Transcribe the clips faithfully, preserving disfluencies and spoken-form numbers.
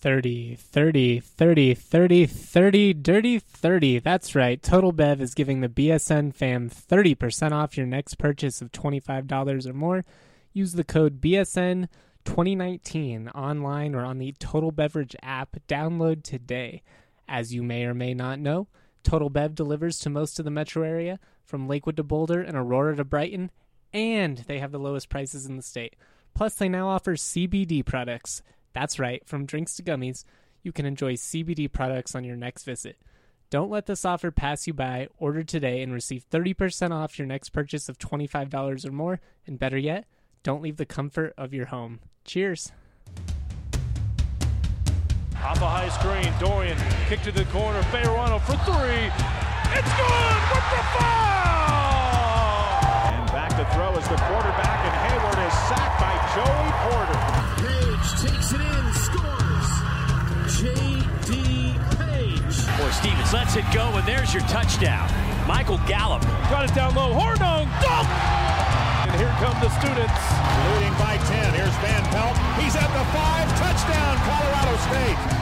thirty, thirty, thirty, thirty, thirty, dirty thirty. That's right. Total Bev is giving the B S N fam thirty percent off your next purchase of twenty-five dollars or more. Use the code B S N twenty nineteen online or on the Total Beverage app. Download today. As you may or may not know, Total Bev delivers to most of the metro area, from Lakewood to Boulder and Aurora to Brighton, and they have the lowest prices in the state. Plus, they now offer C B D products. That's right, from drinks to gummies, you can enjoy C B D products on your next visit. Don't let this offer pass you by. Order today and receive thirty percent off your next purchase of twenty-five dollars or more. And better yet, don't leave the comfort of your home. Cheers. Off a high screen, Dorian, kick to the corner, Fayerano for three. It's good with the foul! And back to throw as the quarterback, and Hayward is sacked by Joey Porter. Page takes it in, scores. J D. Page. Boy, Stevens lets it go, and there's your touchdown. Michael Gallup. Got it down low, Hornung, dunk! And here come the students. Leading by ten, here's Van Pelt. He's at the five, touchdown, Colorado State.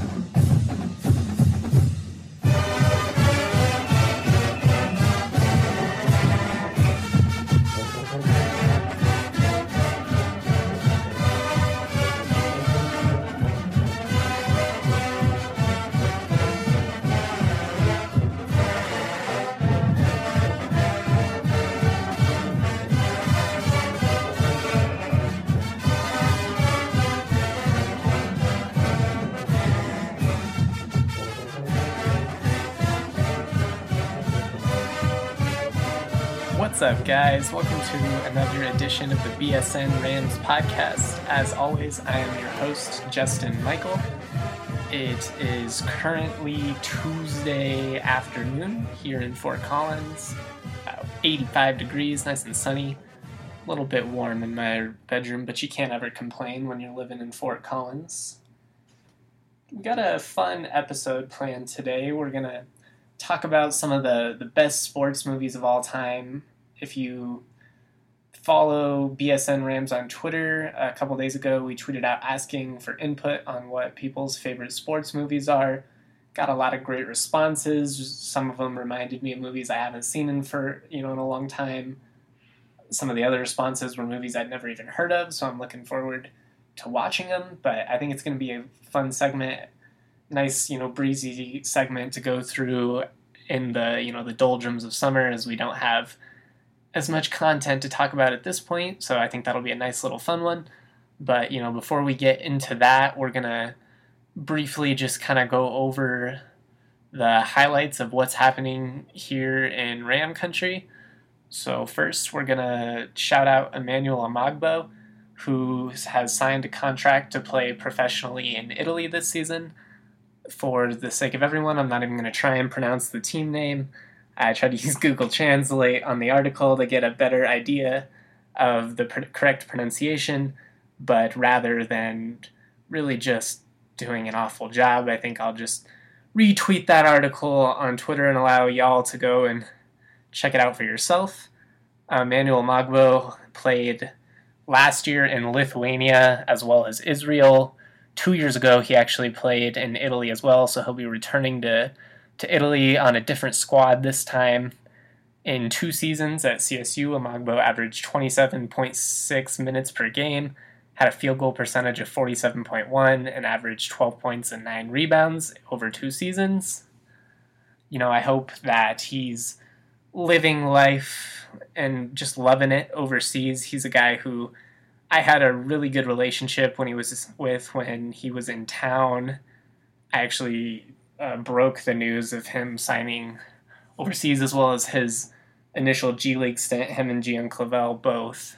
What's up, guys? Welcome to another edition of the B S N Rams podcast. As always, I am your host, Justin Michael. It is currently Tuesday afternoon here in Fort Collins. About eighty-five degrees, nice and sunny. A little bit warm in my bedroom, but you can't ever complain when you're living in Fort Collins. We got a fun episode planned today. We're going to talk about some of the, the best sports movies of all time. If you follow B S N Rams on Twitter, a couple days ago we tweeted out asking for input on what people's favorite sports movies are. Got a lot of great responses. Some of them reminded me of movies I haven't seen in for you know in a long time. Some of the other responses were movies I'd never even heard of, so I'm looking forward to watching them. But I think it's going to be a fun segment, nice you know breezy segment to go through in the you know the doldrums of summer, as we don't have as much content to talk about at this point, so I think that'll be a nice little fun one. But, you know, before we get into that, we're going to briefly just kind of go over the highlights of what's happening here in Ram Country. So first, we're going to shout out Emmanuel Amagbo, who has signed a contract to play professionally in Italy this season. For the sake of everyone, I'm not even going to try and pronounce the team name. I tried to use Google Translate on the article to get a better idea of the pr- correct pronunciation, but rather than really just doing an awful job, I think I'll just retweet that article on Twitter and allow y'all to go and check it out for yourself. Uh, Manuel Magbo played last year in Lithuania as well as Israel. Two years ago, he actually played in Italy as well, so he'll be returning to to Italy on a different squad this time. In two seasons at C S U, Amagbo averaged twenty-seven point six minutes per game, had a field goal percentage of forty-seven point one, and averaged twelve points and nine rebounds over two seasons. You know, I hope that he's living life and just loving it overseas. He's a guy who I had a really good relationship when he was with when he was in town. I actually Uh, broke the news of him signing overseas, as well as his initial G League stint, him and Gian Clavel both.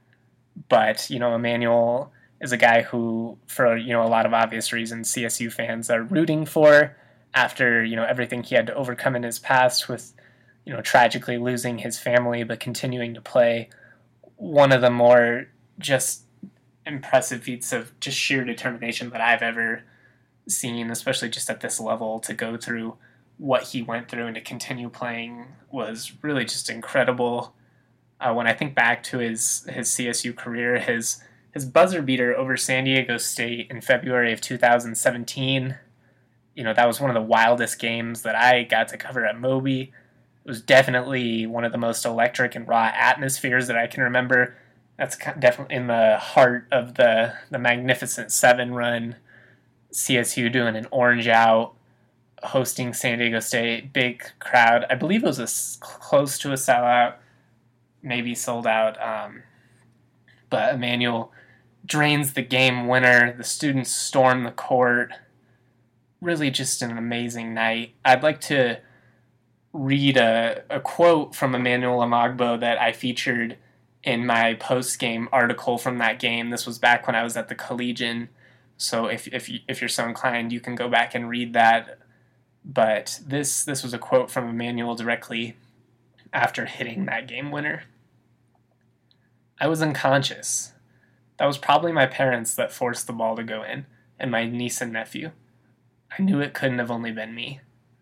But, you know, Emmanuel is a guy who, for, you know, a lot of obvious reasons, C S U fans are rooting for after, you know, everything he had to overcome in his past with, you know, tragically losing his family, but continuing to play one of the more just impressive feats of just sheer determination that I've ever seen, especially just at this level. To go through what he went through and to continue playing was really just incredible. Uh, when I think back to his his C S U career, his his buzzer beater over San Diego State in February of two thousand seventeen. You know, that was one of the wildest games that I got to cover at Moby. It was definitely one of the most electric and raw atmospheres that I can remember. That's definitely in the heart of the, the Magnificent Seven run. C S U doing an orange out, hosting San Diego State, big crowd. I believe it was a, close to a sellout, maybe sold out. Um, but Emmanuel drains the game winner. The students storm the court. Really just an amazing night. I'd like to read a, a quote from Emmanuel Amagbo that I featured in my post-game article from that game. This was back when I was at the Collegian, so if if, you, if you're so inclined, you can go back and read that. But this this was a quote from Emmanuel directly after hitting that game winner. "I was unconscious. That was probably my parents that forced the ball to go in, and my niece and nephew. I knew it couldn't have only been me."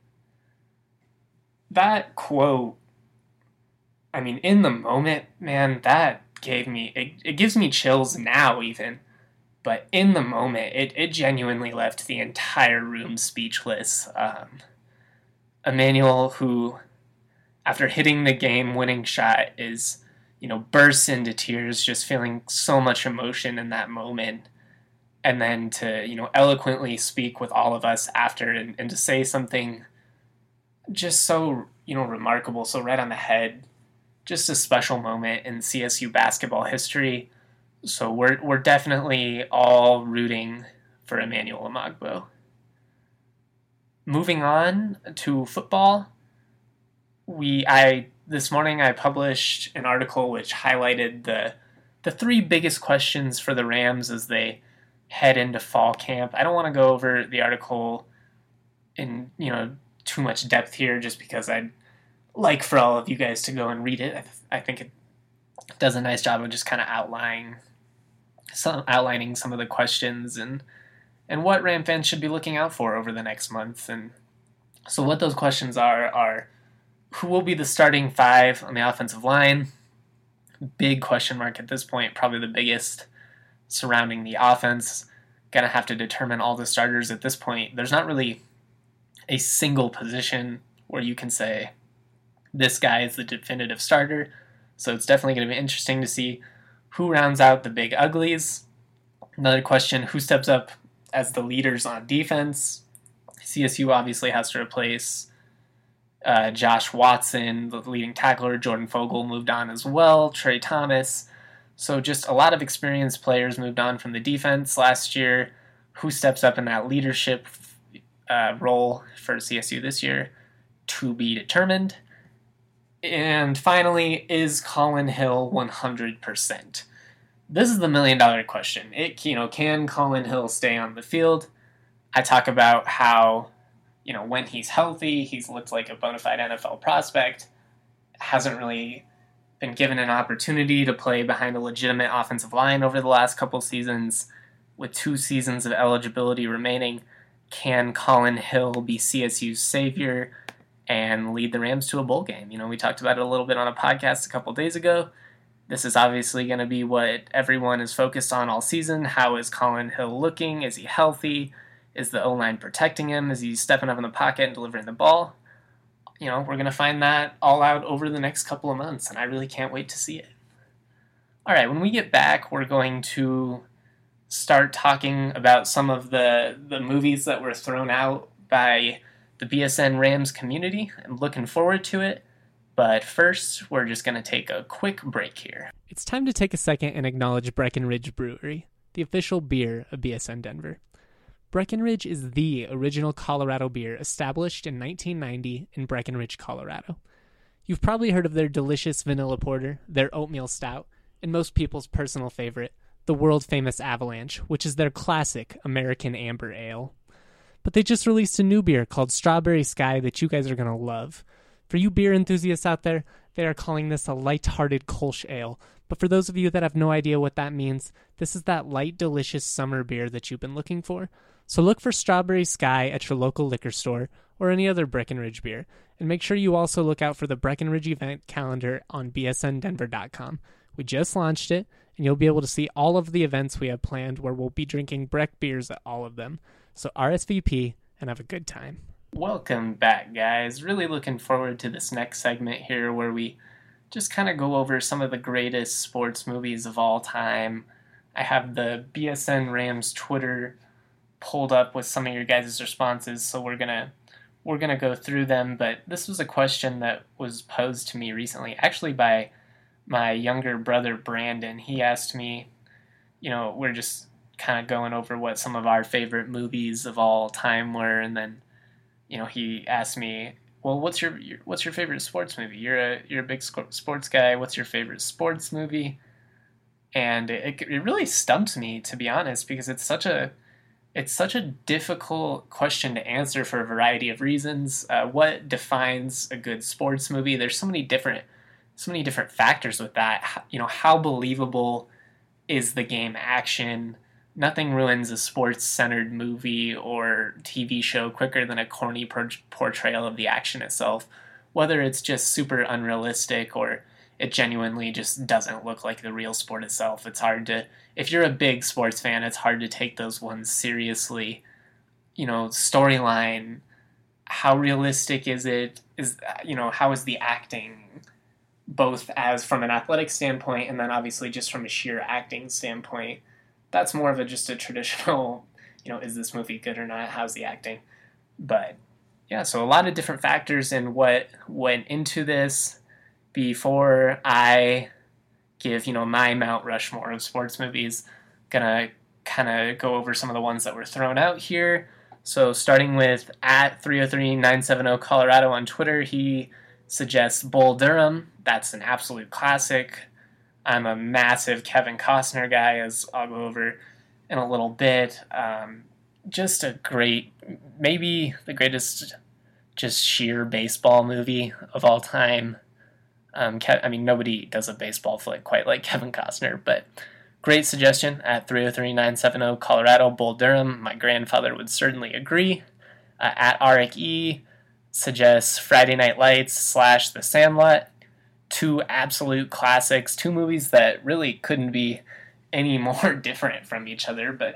That quote, I mean, in the moment, man, that gave me, it, it gives me chills now even, but in the moment, it, it genuinely left the entire room speechless. Um, Emmanuel, who, after hitting the game-winning shot, is, you know, bursts into tears, just feeling so much emotion in that moment. And then to, you know, eloquently speak with all of us after and, and to say something just so, you know, remarkable, so right on the head. Just a special moment in C S U basketball history. So we're we're definitely all rooting for Emmanuel Amagbo. Moving on to football, we I this morning I published an article which highlighted the the three biggest questions for the Rams as they head into fall camp. I don't want to go over the article in, you know, too much depth here just because I'd like for all of you guys to go and read it. I, th- I think it does a nice job of just kind of outlining some outlining some of the questions and and what Ram fans should be looking out for over the next month. And so what those questions are are who will be the starting five on the offensive line? Big question mark at this point, probably the biggest surrounding the offense. Gonna have to determine all the starters at this point. There's not really a single position where you can say this guy is the definitive starter. So it's definitely going to be interesting to see who rounds out the big uglies. Another question, who steps up as the leaders on defense? C S U obviously has to replace uh, Josh Watson, the leading tackler. Jordan Fogle moved on as well. Trey Thomas. So just a lot of experienced players moved on from the defense last year. Who steps up in that leadership uh, role for C S U this year? To be determined. And finally, is Colin Hill one hundred percent? This is the million dollar question. It, you know, can Colin Hill stay on the field? I talk about how, you know, when he's healthy, he's looked like a bona fide N F L prospect. Hasn't really been given an opportunity to play behind a legitimate offensive line over the last couple seasons. With two seasons of eligibility remaining, can Colin Hill be C S U's savior and lead the Rams to a bowl game? You know, we talked about it a little bit on a podcast a couple days ago. This is obviously going to be what everyone is focused on all season. How is Colin Hill looking? Is he healthy? Is the O-line protecting him? Is he stepping up in the pocket and delivering the ball? You know, we're going to find that all out over the next couple of months, and I really can't wait to see it. All right, when we get back, we're going to start talking about some of the, the movies that were thrown out by the B S N Rams community. I'm looking forward to it. But first, we're just going to take a quick break here. It's time to take a second and acknowledge Breckenridge Brewery, the official beer of B S N Denver. Breckenridge is the original Colorado beer established in nineteen ninety in Breckenridge, Colorado. You've probably heard of their delicious vanilla porter, their oatmeal stout, and most people's personal favorite, the world-famous Avalanche, which is their classic American Amber Ale. But they just released a new beer called Strawberry Sky that you guys are going to love. For you beer enthusiasts out there, they are calling this a light-hearted Kolsch ale. But for those of you that have no idea what that means, this is that light, delicious summer beer that you've been looking for. So look for Strawberry Sky at your local liquor store or any other Breckenridge beer. And make sure you also look out for the Breckenridge event calendar on B S N Denver dot com, We just launched it, and you'll be able to see all of the events we have planned where we'll be drinking Breck beers at all of them. So R S V P and have a good time. Welcome back, guys. Really looking forward to this next segment here where we just kind of go over some of the greatest sports movies of all time. I have the B S N Rams Twitter pulled up with some of your guys' responses, so we're gonna we're gonna go through them. But this was a question that was posed to me recently, actually by my younger brother Brandon. He asked me, you know, we're just kind of going over what some of our favorite movies of all time were, and then, you know, he asked me, well, what's your, your what's your favorite sports movie? You're a you're a big sports guy. What's your favorite sports movie? And it it really stumped me, to be honest, because it's such a it's such a difficult question to answer for a variety of reasons. Uh, what defines a good sports movie? There's so many different so many different factors with that. You know, how believable is the game action? Nothing ruins a sports-centered movie or T V show quicker than a corny por- portrayal of the action itself, whether it's just super unrealistic or it genuinely just doesn't look like the real sport itself. It's hard to, if you're a big sports fan, it's hard to take those ones seriously. You know, storyline, how realistic is it? Is, you know, how is the acting, both as from an athletic standpoint and then obviously just from a sheer acting standpoint? That's more of a just a traditional, you know, is this movie good or not? How's the acting? But yeah, so a lot of different factors in what went into this before I give, you know, my Mount Rushmore of sports movies. Gonna kind of go over some of the ones that were thrown out here. So starting with at three oh three nine seven oh Colorado on Twitter, he suggests Bull Durham. That's an absolute classic. I'm a massive Kevin Costner guy, as I'll go over in a little bit. Um, just a great, maybe the greatest just sheer baseball movie of all time. Um, Ke- I mean, nobody does a baseball flick quite like Kevin Costner, but great suggestion at three oh three nine seven oh Colorado, Bull Durham. My grandfather would certainly agree. Uh, at Arik E suggests Friday Night Lights slash The Sandlot. Two absolute classics, two movies that really couldn't be any more different from each other, but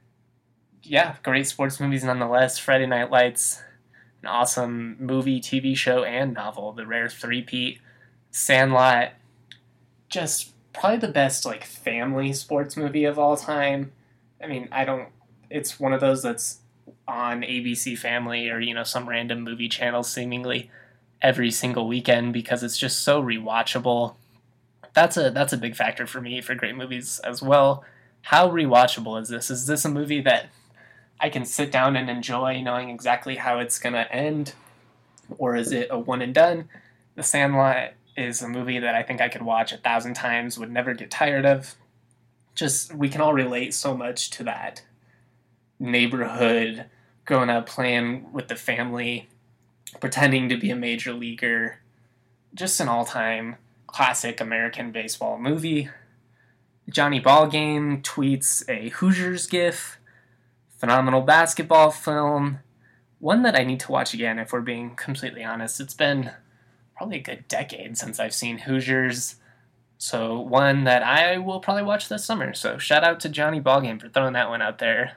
yeah, great sports movies nonetheless. Friday Night Lights, an awesome movie, T V show, and novel, the rare three-peat. Sandlot, just probably the best like family sports movie of all time. I mean, I don't, it's one of those that's on A B C Family or, you know, some random movie channel seemingly every single weekend because it's just so rewatchable. That's a that's a big factor for me for great movies as well. How rewatchable is this? Is this a movie that I can sit down and enjoy knowing exactly how it's going to end? Or is it a one and done? The Sandlot is a movie that I think I could watch a thousand times, would never get tired of. Just, we can all relate so much to that neighborhood, growing up playing with the family, pretending to be a major leaguer. Just an all-time classic American baseball movie. Johnny Ballgame tweets a Hoosiers gif. Phenomenal basketball film. One that I need to watch again, if we're being completely honest. It's been probably a good decade since I've seen Hoosiers. So one that I will probably watch this summer. So shout out to Johnny Ballgame for throwing that one out there.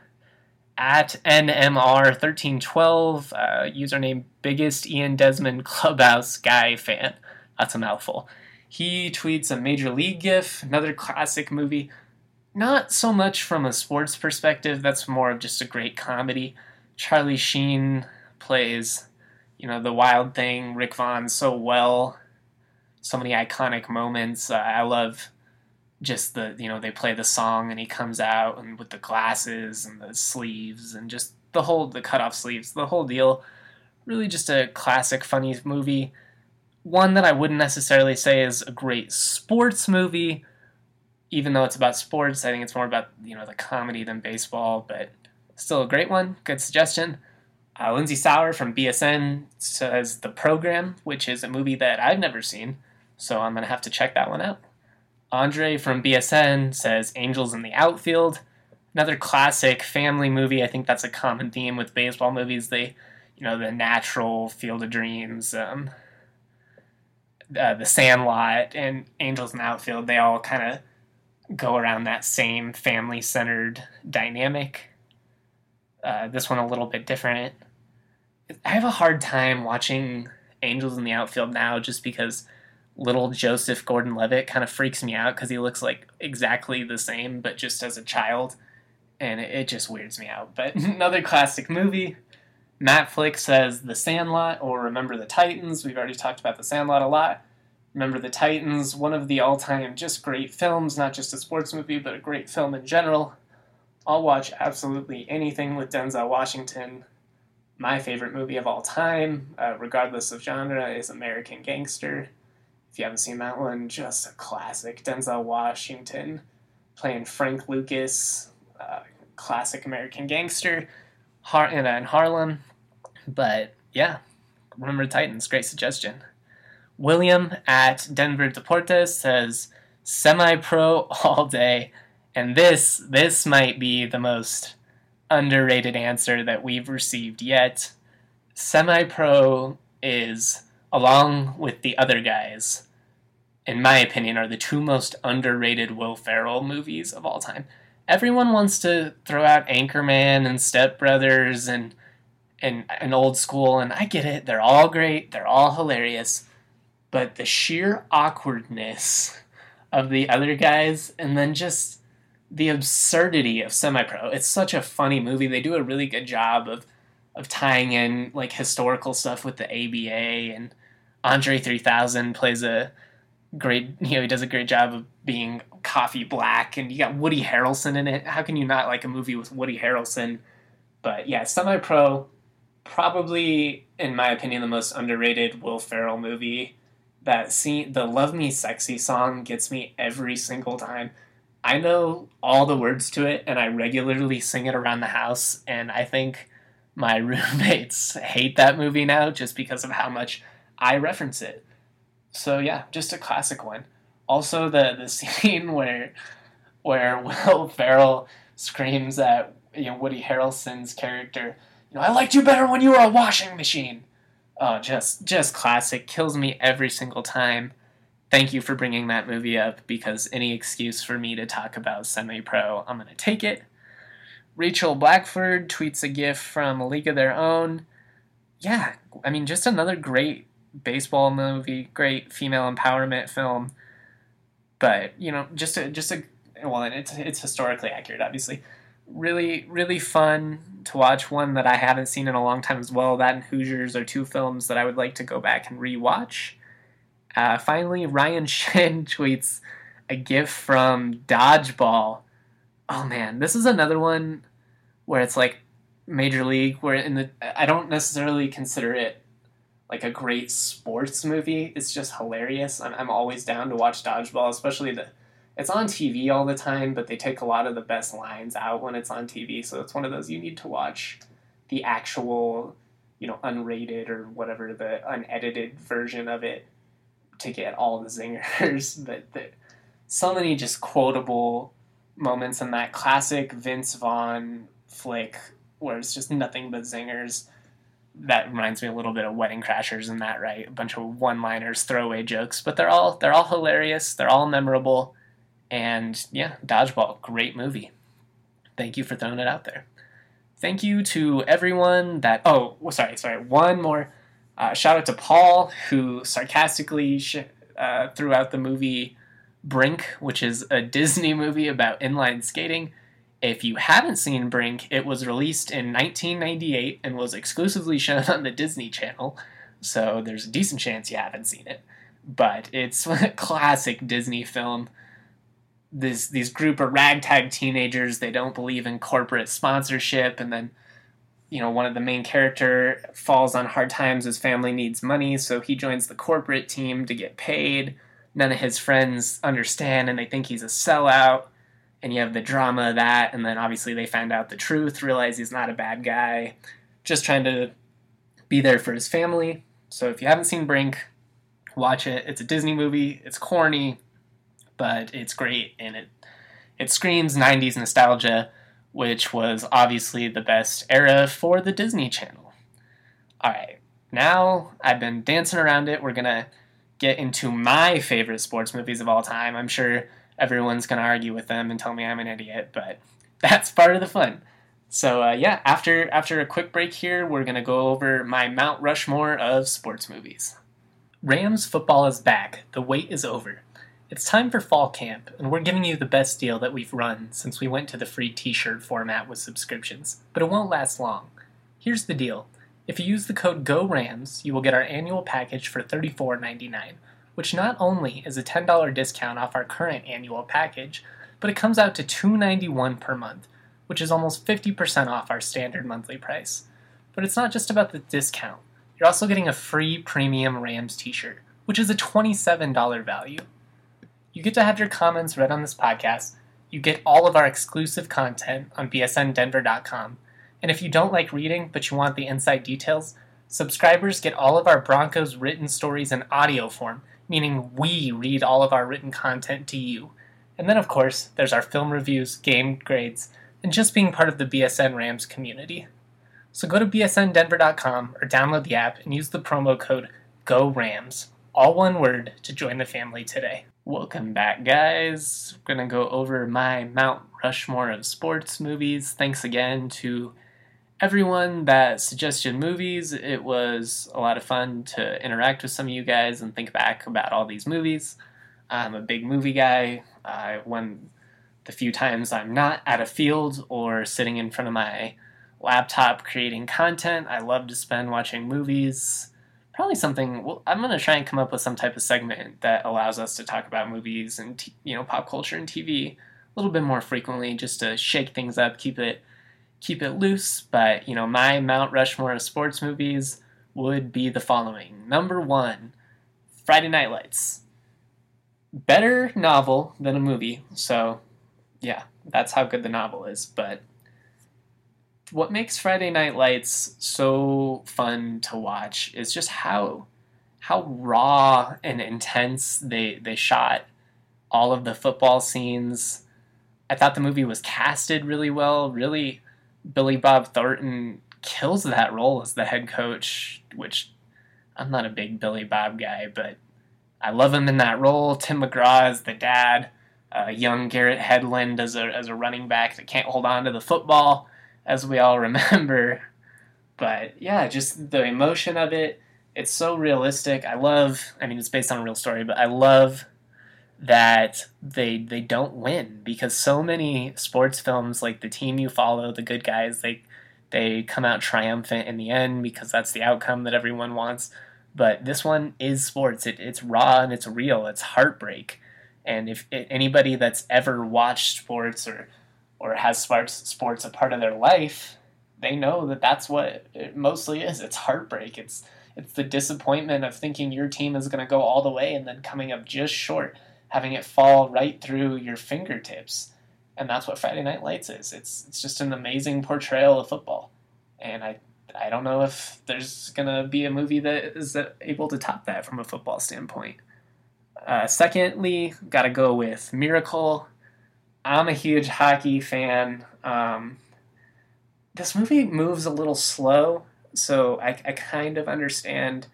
At N M R thirteen twelve, uh, username biggest Ian Desmond Clubhouse guy fan. That's a mouthful. He tweets a Major League gif, another classic movie. Not so much from a sports perspective, that's more of just a great comedy. Charlie Sheen plays, you know, the Wild Thing, Rick Vaughn so well. So many iconic moments. Uh, I love just the, you know, they play the song and he comes out and with the glasses and the sleeves and just the whole, the cut off sleeves, the whole deal. Really just a classic, funny movie. One that I wouldn't necessarily say is a great sports movie, even though it's about sports. I think it's more about, you know, the comedy than baseball, but still a great one. Good suggestion. Uh, Lindsay Sauer from B S N says The Program, which is a movie that I've never seen, so I'm going to have to check that one out. Andre from B S N says Angels in the Outfield. Another classic family movie. I think that's a common theme with baseball movies. They, you know, The Natural, Field of Dreams. Um, uh, The Sandlot and Angels in the Outfield, they all kind of go around that same family-centered dynamic. Uh, this one a little bit different. I have a hard time watching Angels in the Outfield now just because little Joseph Gordon-Levitt kind of freaks me out because he looks like exactly the same, but just as a child, and it, it just weirds me out. But another classic movie. Matt Flick says The Sandlot or Remember the Titans. We've already talked about The Sandlot a lot. Remember the Titans, one of the all-time just great films, not just a sports movie, but a great film in general. I'll watch absolutely anything with Denzel Washington. My favorite movie of all time, uh, regardless of genre, is American Gangster. If you haven't seen that one, just a classic. Denzel Washington playing Frank Lucas, uh, classic American Gangster, Har- in, uh, in Harlem. But yeah, Remember the Titans, great suggestion. William at Denver Deportes says, semi-pro all day. And this, this might be the most underrated answer that we've received yet. Semi-Pro is, along with The Other Guys, in my opinion, are the two most underrated Will Ferrell movies of all time. Everyone wants to throw out Anchorman and Step Brothers and, and, and Old School, and I get it. They're all great. They're all hilarious. But the sheer awkwardness of The Other Guys, and then just the absurdity of Semi-Pro. It's such a funny movie. They do a really good job of of tying in like historical stuff with the A B A, and Andre three thousand plays a great, you know, he does a great job of being coffee black, and you got Woody Harrelson in it. How can you not like a movie with Woody Harrelson? But yeah, Semi-Pro, probably, in my opinion, the most underrated Will Ferrell movie. That scene, the Love Me Sexy song gets me every single time. I know all the words to it, and I regularly sing it around the house, and I think my roommates hate that movie now just because of how much I reference it. So yeah, just a classic one. Also, the, the scene where where Will Ferrell screams at, you know, Woody Harrelson's character, you know, I liked you better when you were a washing machine. Oh, just just classic. Kills me every single time. Thank you for bringing that movie up, because any excuse for me to talk about Semi-Pro, I'm going to take it. Rachel Blackford tweets a gif from A League of Their Own. Yeah, I mean, just another great baseball movie, great female empowerment film. But, you know, just a, just a, well, it's, it's historically accurate, obviously. Really, really fun to watch. One that I haven't seen in a long time as well. That and Hoosiers are two films that I would like to go back and rewatch. Uh, finally, Ryan Shin tweets a gif from Dodgeball. Oh man, this is another one where it's like Major League, where in the I don't necessarily consider it like a great sports movie. It's just hilarious. I'm, I'm always down to watch Dodgeball, especially the. It's on T V all the time, but they take a lot of the best lines out when it's on T V. So it's one of those you need to watch the actual, you know, unrated or whatever, the unedited version of it to get all the zingers. But the, so many just quotable moments in that classic Vince Vaughn flick where it's just nothing but zingers. That reminds me a little bit of Wedding Crashers in that, right? A bunch of one-liners, throwaway jokes, but they're all they're all hilarious. They're all memorable. And yeah, Dodgeball, great movie. Thank you for throwing it out there. Thank you to everyone that... Oh, sorry, sorry. One more. Uh, shout out to Paul, who sarcastically sh- uh, threw out the movie Brink, which is a Disney movie about inline skating. If you haven't seen Brink, it was released in nineteen ninety-eight and was exclusively shown on the Disney Channel, so there's a decent chance you haven't seen it. But it's a classic Disney film. This these group of ragtag teenagers, they don't believe in corporate sponsorship, and then, you know, one of the main character falls on hard times. His family needs money, so he joins the corporate team to get paid. None of his friends understand, and they think he's a sellout. And you have the drama of that, and then obviously they find out the truth, realize he's not a bad guy, just trying to be there for his family. So if you haven't seen Brink, watch it. It's a Disney movie. It's corny, but it's great, and it it screams nineties nostalgia, which was obviously the best era for the Disney Channel. All right, now I've been dancing around it. We're going to get into my favorite sports movies of all time. I'm sure everyone's going to argue with them and tell me I'm an idiot, but that's part of the fun. So uh, yeah, after after a quick break here, we're going to go over my Mount Rushmore of sports movies. Rams football is back. The wait is over. It's time for fall camp, and we're giving you the best deal that we've run since we went to the free t-shirt format with subscriptions, but it won't last long. Here's the deal. If you use the code GORAMS, you will get our annual package for thirty-four ninety-nine, which not only is a ten dollars discount off our current annual package, but it comes out to two hundred ninety-one dollars per month, which is almost fifty percent off our standard monthly price. But it's not just about the discount. You're also getting a free premium Rams t-shirt, which is a twenty-seven dollars value. You get to have your comments read on this podcast, you get all of our exclusive content on B S N Denver dot com, and if you don't like reading but you want the inside details, subscribers get all of our Broncos written stories in audio form, meaning we read all of our written content to you. And then of course, there's our film reviews, game grades, and just being part of the B S N Rams community. So go to B S N Denver dot com or download the app and use the promo code GORAMS, all one word, to join the family today. Welcome back, guys. We're going to go over my Mount Rushmore of sports movies. Thanks again to everyone that suggested movies. It was a lot of fun to interact with some of you guys and think back about all these movies. I'm a big movie guy. Uh, when the few times I'm not at a field or sitting in front of my laptop creating content, I love to spend watching movies. Probably something, well, I'm going to try and come up with some type of segment that allows us to talk about movies and, t- you know, pop culture and T V a little bit more frequently, just to shake things up, keep it keep it loose. But, you know, my Mount Rushmore of sports movies would be the following. Number one, Friday Night Lights. Better novel than a movie, so yeah, that's how good the novel is. But what makes Friday Night Lights so fun to watch is just how how raw and intense they they shot all of the football scenes. I thought the movie was casted really well. Really, Billy Bob Thornton kills that role as the head coach, which I'm not a big Billy Bob guy, but I love him in that role. Tim McGraw as the dad, uh, young Garrett Hedlund as a as a running back that can't hold on to the football, as we all remember. But yeah, just the emotion of it, it's so realistic. I love, I mean, it's based on a real story, but I love that they they don't win, because so many sports films, like The Team You Follow, The Good Guys, they they come out triumphant in the end because that's the outcome that everyone wants. But this one is sports. It, it's raw and it's real. It's heartbreak. And if it, anybody that's ever watched sports or or has sports, sports a part of their life, they know that that's what it mostly is. It's heartbreak. It's it's the disappointment of thinking your team is going to go all the way and then coming up just short, having it fall right through your fingertips. And that's what Friday Night Lights is. It's it's just an amazing portrayal of football. And I I don't know if there's going to be a movie that is able to top that from a football standpoint. Uh, secondly, got to go with Miracle. I'm a huge hockey fan. Um, this movie moves a little slow, so I, I kind of understand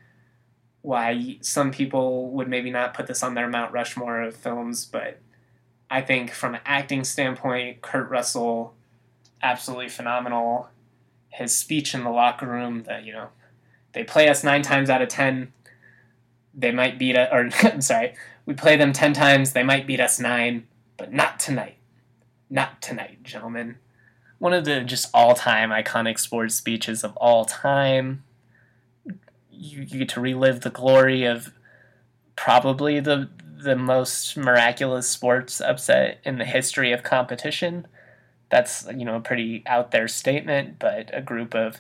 why some people would maybe not put this on their Mount Rushmore of films, but I think from an acting standpoint, Kurt Russell, absolutely phenomenal. His speech in the locker room that, you know, they play us nine times out of ten, they might beat us, or I'm sorry, we play them ten times, they might beat us nine, but not tonight. Not tonight, gentlemen. One of the just all-time iconic sports speeches of all time. You, you get to relive the glory of probably the the most miraculous sports upset in the history of competition. That's, you know, a pretty out there statement, but a group of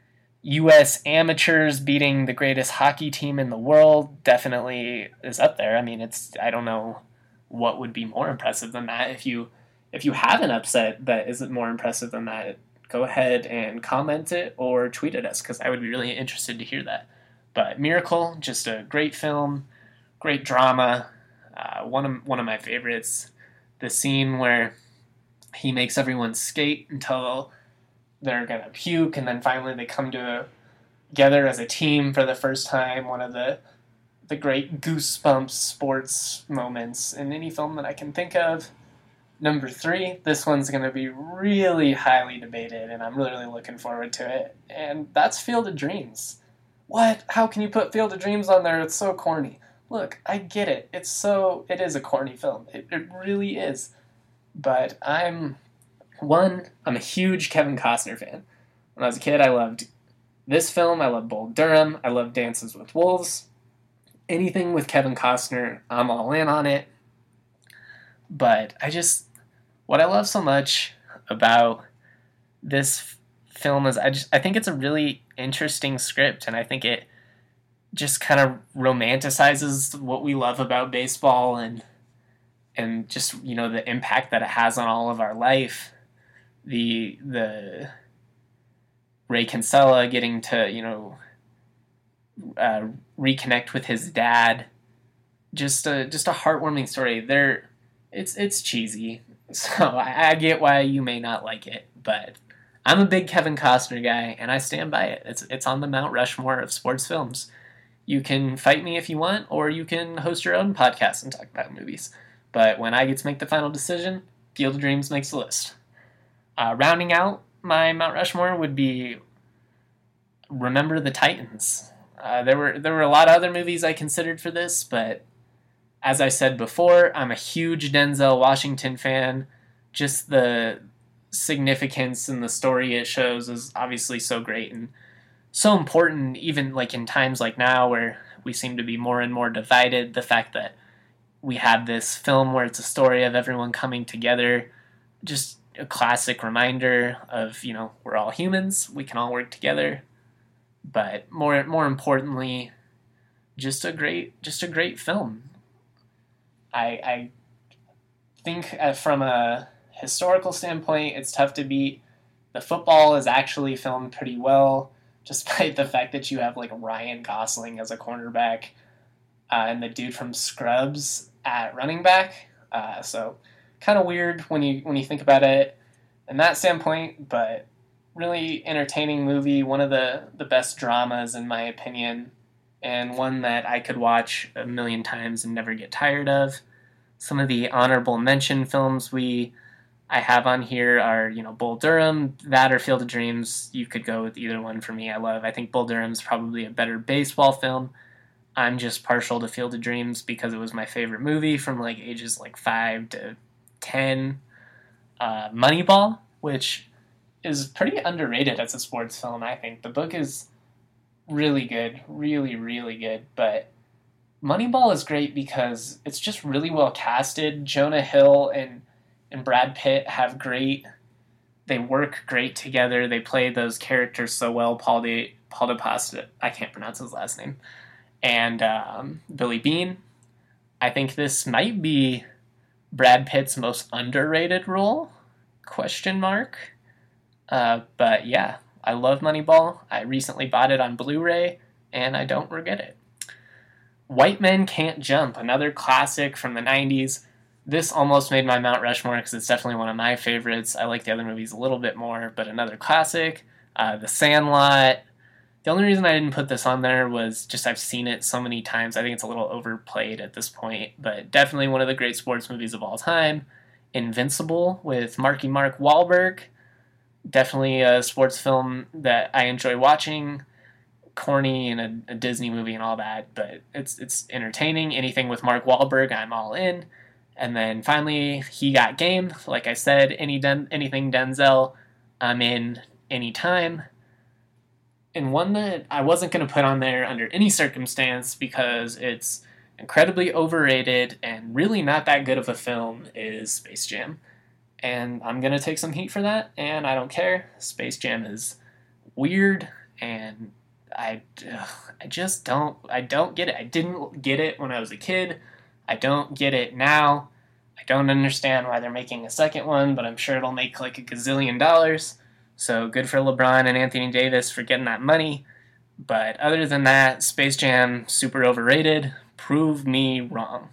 U S amateurs beating the greatest hockey team in the world definitely is up there. I mean, it's, I don't know what would be more impressive than that. If you if you have an upset that isn't more impressive than that, go ahead and comment it or tweet at us, because I would be really interested to hear that. But Miracle, just a great film, great drama, uh, one of one of my favorites. The scene where he makes everyone skate until they're gonna puke, and then finally they come to together as a team for the first time. One of the the great goosebumps sports moments in any film that I can think of. Number three, this one's going to be really highly debated, and I'm really, really looking forward to it. And that's Field of Dreams. What? How can you put Field of Dreams on there? It's so corny. Look, I get it. It's so, it is a corny film. It, it really is. But I'm, one, I'm a huge Kevin Costner fan. When I was a kid, I loved this film. I loved Bull Durham. I loved Dances with Wolves. Anything with Kevin Costner, I'm all in on it. But I just, what I love so much about this f- film is I just, I think it's a really interesting script, and I think it just kind of romanticizes what we love about baseball and and just, you know, the impact that it has on all of our life. The the Ray Kinsella getting to, you know, uh, reconnect with his dad. Just a just a heartwarming story. There, it's it's cheesy, so I, I get why you may not like it, but I'm a big Kevin Costner guy, and I stand by it. It's it's on the Mount Rushmore of sports films. You can fight me if you want, or you can host your own podcast and talk about movies. But when I get to make the final decision, Field of Dreams makes the list. Uh, rounding out my Mount Rushmore would be Remember the Titans. Uh, there were there were a lot of other movies I considered for this, but as I said before, I'm a huge Denzel Washington fan. Just the significance and the story it shows is obviously so great and so important, even like in times like now where we seem to be more and more divided. The fact that we have this film where it's a story of everyone coming together, just a classic reminder of, you know, we're all humans, we can all work together. But more more importantly, just a great just a great film. I I think uh, from a historical standpoint, it's tough to beat. The football is actually filmed pretty well, despite the fact that you have like Ryan Gosling as a cornerback uh, and the dude from Scrubs at running back. Uh, so kind of weird when you when you think about it in that standpoint, but really entertaining movie. One of the, the best dramas in my opinion, and one that I could watch a million times and never get tired of. Some of the honorable mention films we I have on here are, you know, Bull Durham, that or Field of Dreams. You could go with either one for me. I love. I think Bull Durham's probably a better baseball film. I'm just partial to Field of Dreams because it was my favorite movie from like ages like five to ten. Uh, Moneyball, which is pretty underrated as a sports film, I think. The book is really good, really, really good, but Moneyball is great because it's just really well casted. Jonah Hill and and Brad Pitt have great, they work great together. They play those characters so well. Paul de Paul de Pasta, I can't pronounce his last name, and um, Billy Bean. I think this might be Brad Pitt's most underrated role? Question mark. Uh, but yeah, I love Moneyball. I recently bought it on Blu-ray, and I don't regret it. White Men Can't Jump, another classic from the nineties. This almost made my Mount Rushmore because it's definitely one of my favorites. I like the other movies a little bit more, but another classic. Uh, The Sandlot. The only reason I didn't put this on there was just I've seen it so many times. I think it's a little overplayed at this point, but definitely one of the great sports movies of all time. Invincible with Marky Mark Wahlberg. Definitely a sports film that I enjoy watching. Corny and a, a Disney movie and all that, but it's it's entertaining. Anything with Mark Wahlberg, I'm all in. And then finally, He Got Game. Like I said, any Den- anything Denzel, I'm in anytime. And one that I wasn't going to put on there under any circumstance because it's incredibly overrated and really not that good of a film is Space Jam. And I'm going to take some heat for that, and I don't care. Space Jam is weird, and I, ugh, I just don't, I don't get it. I didn't get it when I was a kid. I don't get it now. I don't understand why they're making a second one, but I'm sure it'll make like a gazillion dollars. So good for LeBron and Anthony Davis for getting that money. But other than that, Space Jam, super overrated. Prove me wrong.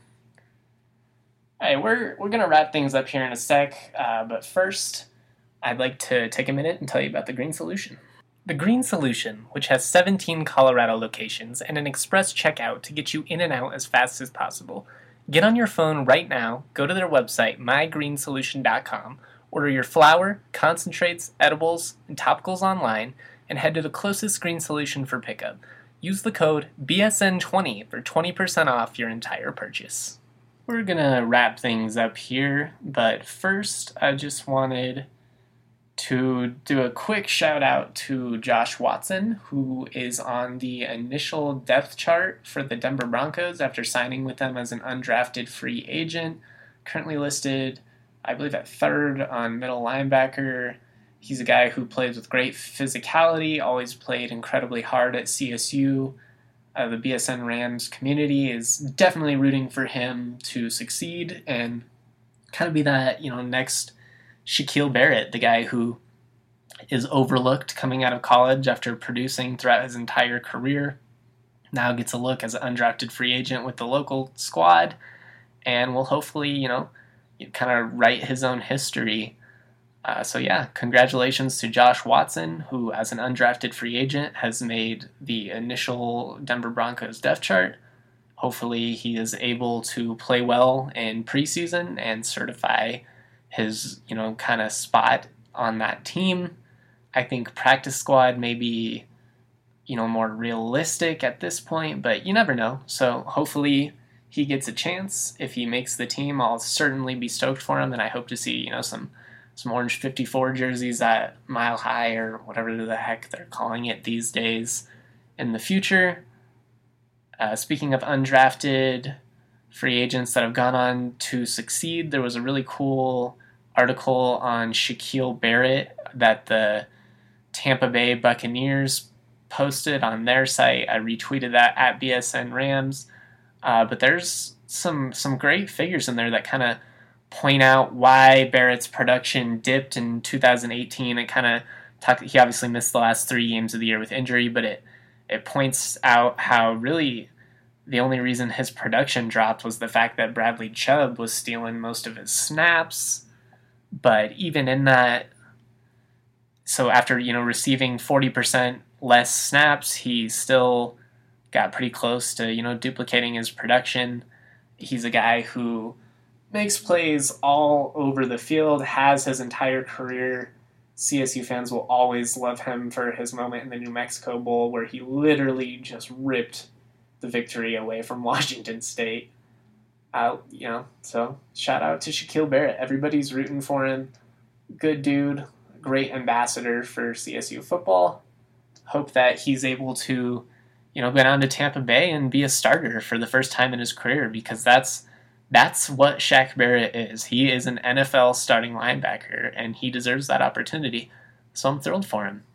Alright, we're, we're going to wrap things up here in a sec, uh, but first, I'd like to take a minute and tell you about the Green Solution. The Green Solution, which has seventeen Colorado locations and an express checkout to get you in and out as fast as possible. Get on your phone right now, go to their website, my green solution dot com, order your flour, concentrates, edibles, and topicals online, and head to the closest Green Solution for pickup. Use the code B S N twenty for twenty percent off your entire purchase. We're gonna wrap things up here, but first I just wanted to do a quick shout out to Josh Watson, who is on the initial depth chart for the Denver Broncos after signing with them as an undrafted free agent. Currently listed, I believe, at third on middle linebacker. He's a guy who plays with great physicality, always played incredibly hard at C S U. Uh, the B S N Rams community is definitely rooting for him to succeed and kind of be that, you know, next Shaquille Barrett, the guy who is overlooked coming out of college after producing throughout his entire career. Now gets a look as an undrafted free agent with the local squad and will hopefully, you know, kind of write his own history. Uh, so yeah, congratulations to Josh Watson, who as an undrafted free agent has made the initial Denver Broncos depth chart. Hopefully he is able to play well in preseason and certify his, you know, kind of spot on that team. I think practice squad may be, you know, more realistic at this point, but you never know. So hopefully he gets a chance. If he makes the team, I'll certainly be stoked for him, and I hope to see, you know, some some orange fifty-four jerseys at Mile High or whatever the heck they're calling it these days in the future. Uh, speaking of undrafted free agents that have gone on to succeed, there was a really cool article on Shaquille Barrett that the Tampa Bay Buccaneers posted on their site. I retweeted that at B S N Rams. Uh, but there's some some great figures in there that kind of point out why Barrett's production dipped in two thousand eighteen. It kind of talk. He obviously missed the last three games of the year with injury, but it it points out how really the only reason his production dropped was the fact that Bradley Chubb was stealing most of his snaps. But even in that, so after, you know, receiving forty percent less snaps, he still got pretty close to, you know, duplicating his production. He's a guy who makes plays all over the field, has his entire career. C S U fans will always love him for his moment in the New Mexico Bowl where he literally just ripped the victory away from Washington State. Uh, you know, so shout out to Shaquille Barrett. Everybody's rooting for him. Good dude, great ambassador for C S U football. Hope that he's able to, you know, go down to Tampa Bay and be a starter for the first time in his career, because that's that's what Shaq Barrett is. He is an N F L starting linebacker, and he deserves that opportunity. So I'm thrilled for him.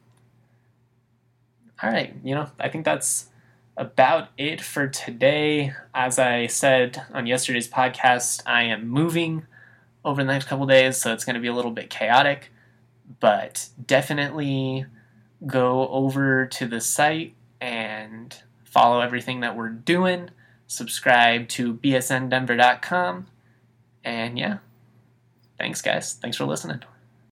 All right, you know, I think that's about it for today. As I said on yesterday's podcast, I am moving over the next couple days, so it's going to be a little bit chaotic, but definitely go over to the site and follow everything that we're doing. Subscribe to B S N Denver dot com. And yeah, thanks guys. Thanks for listening.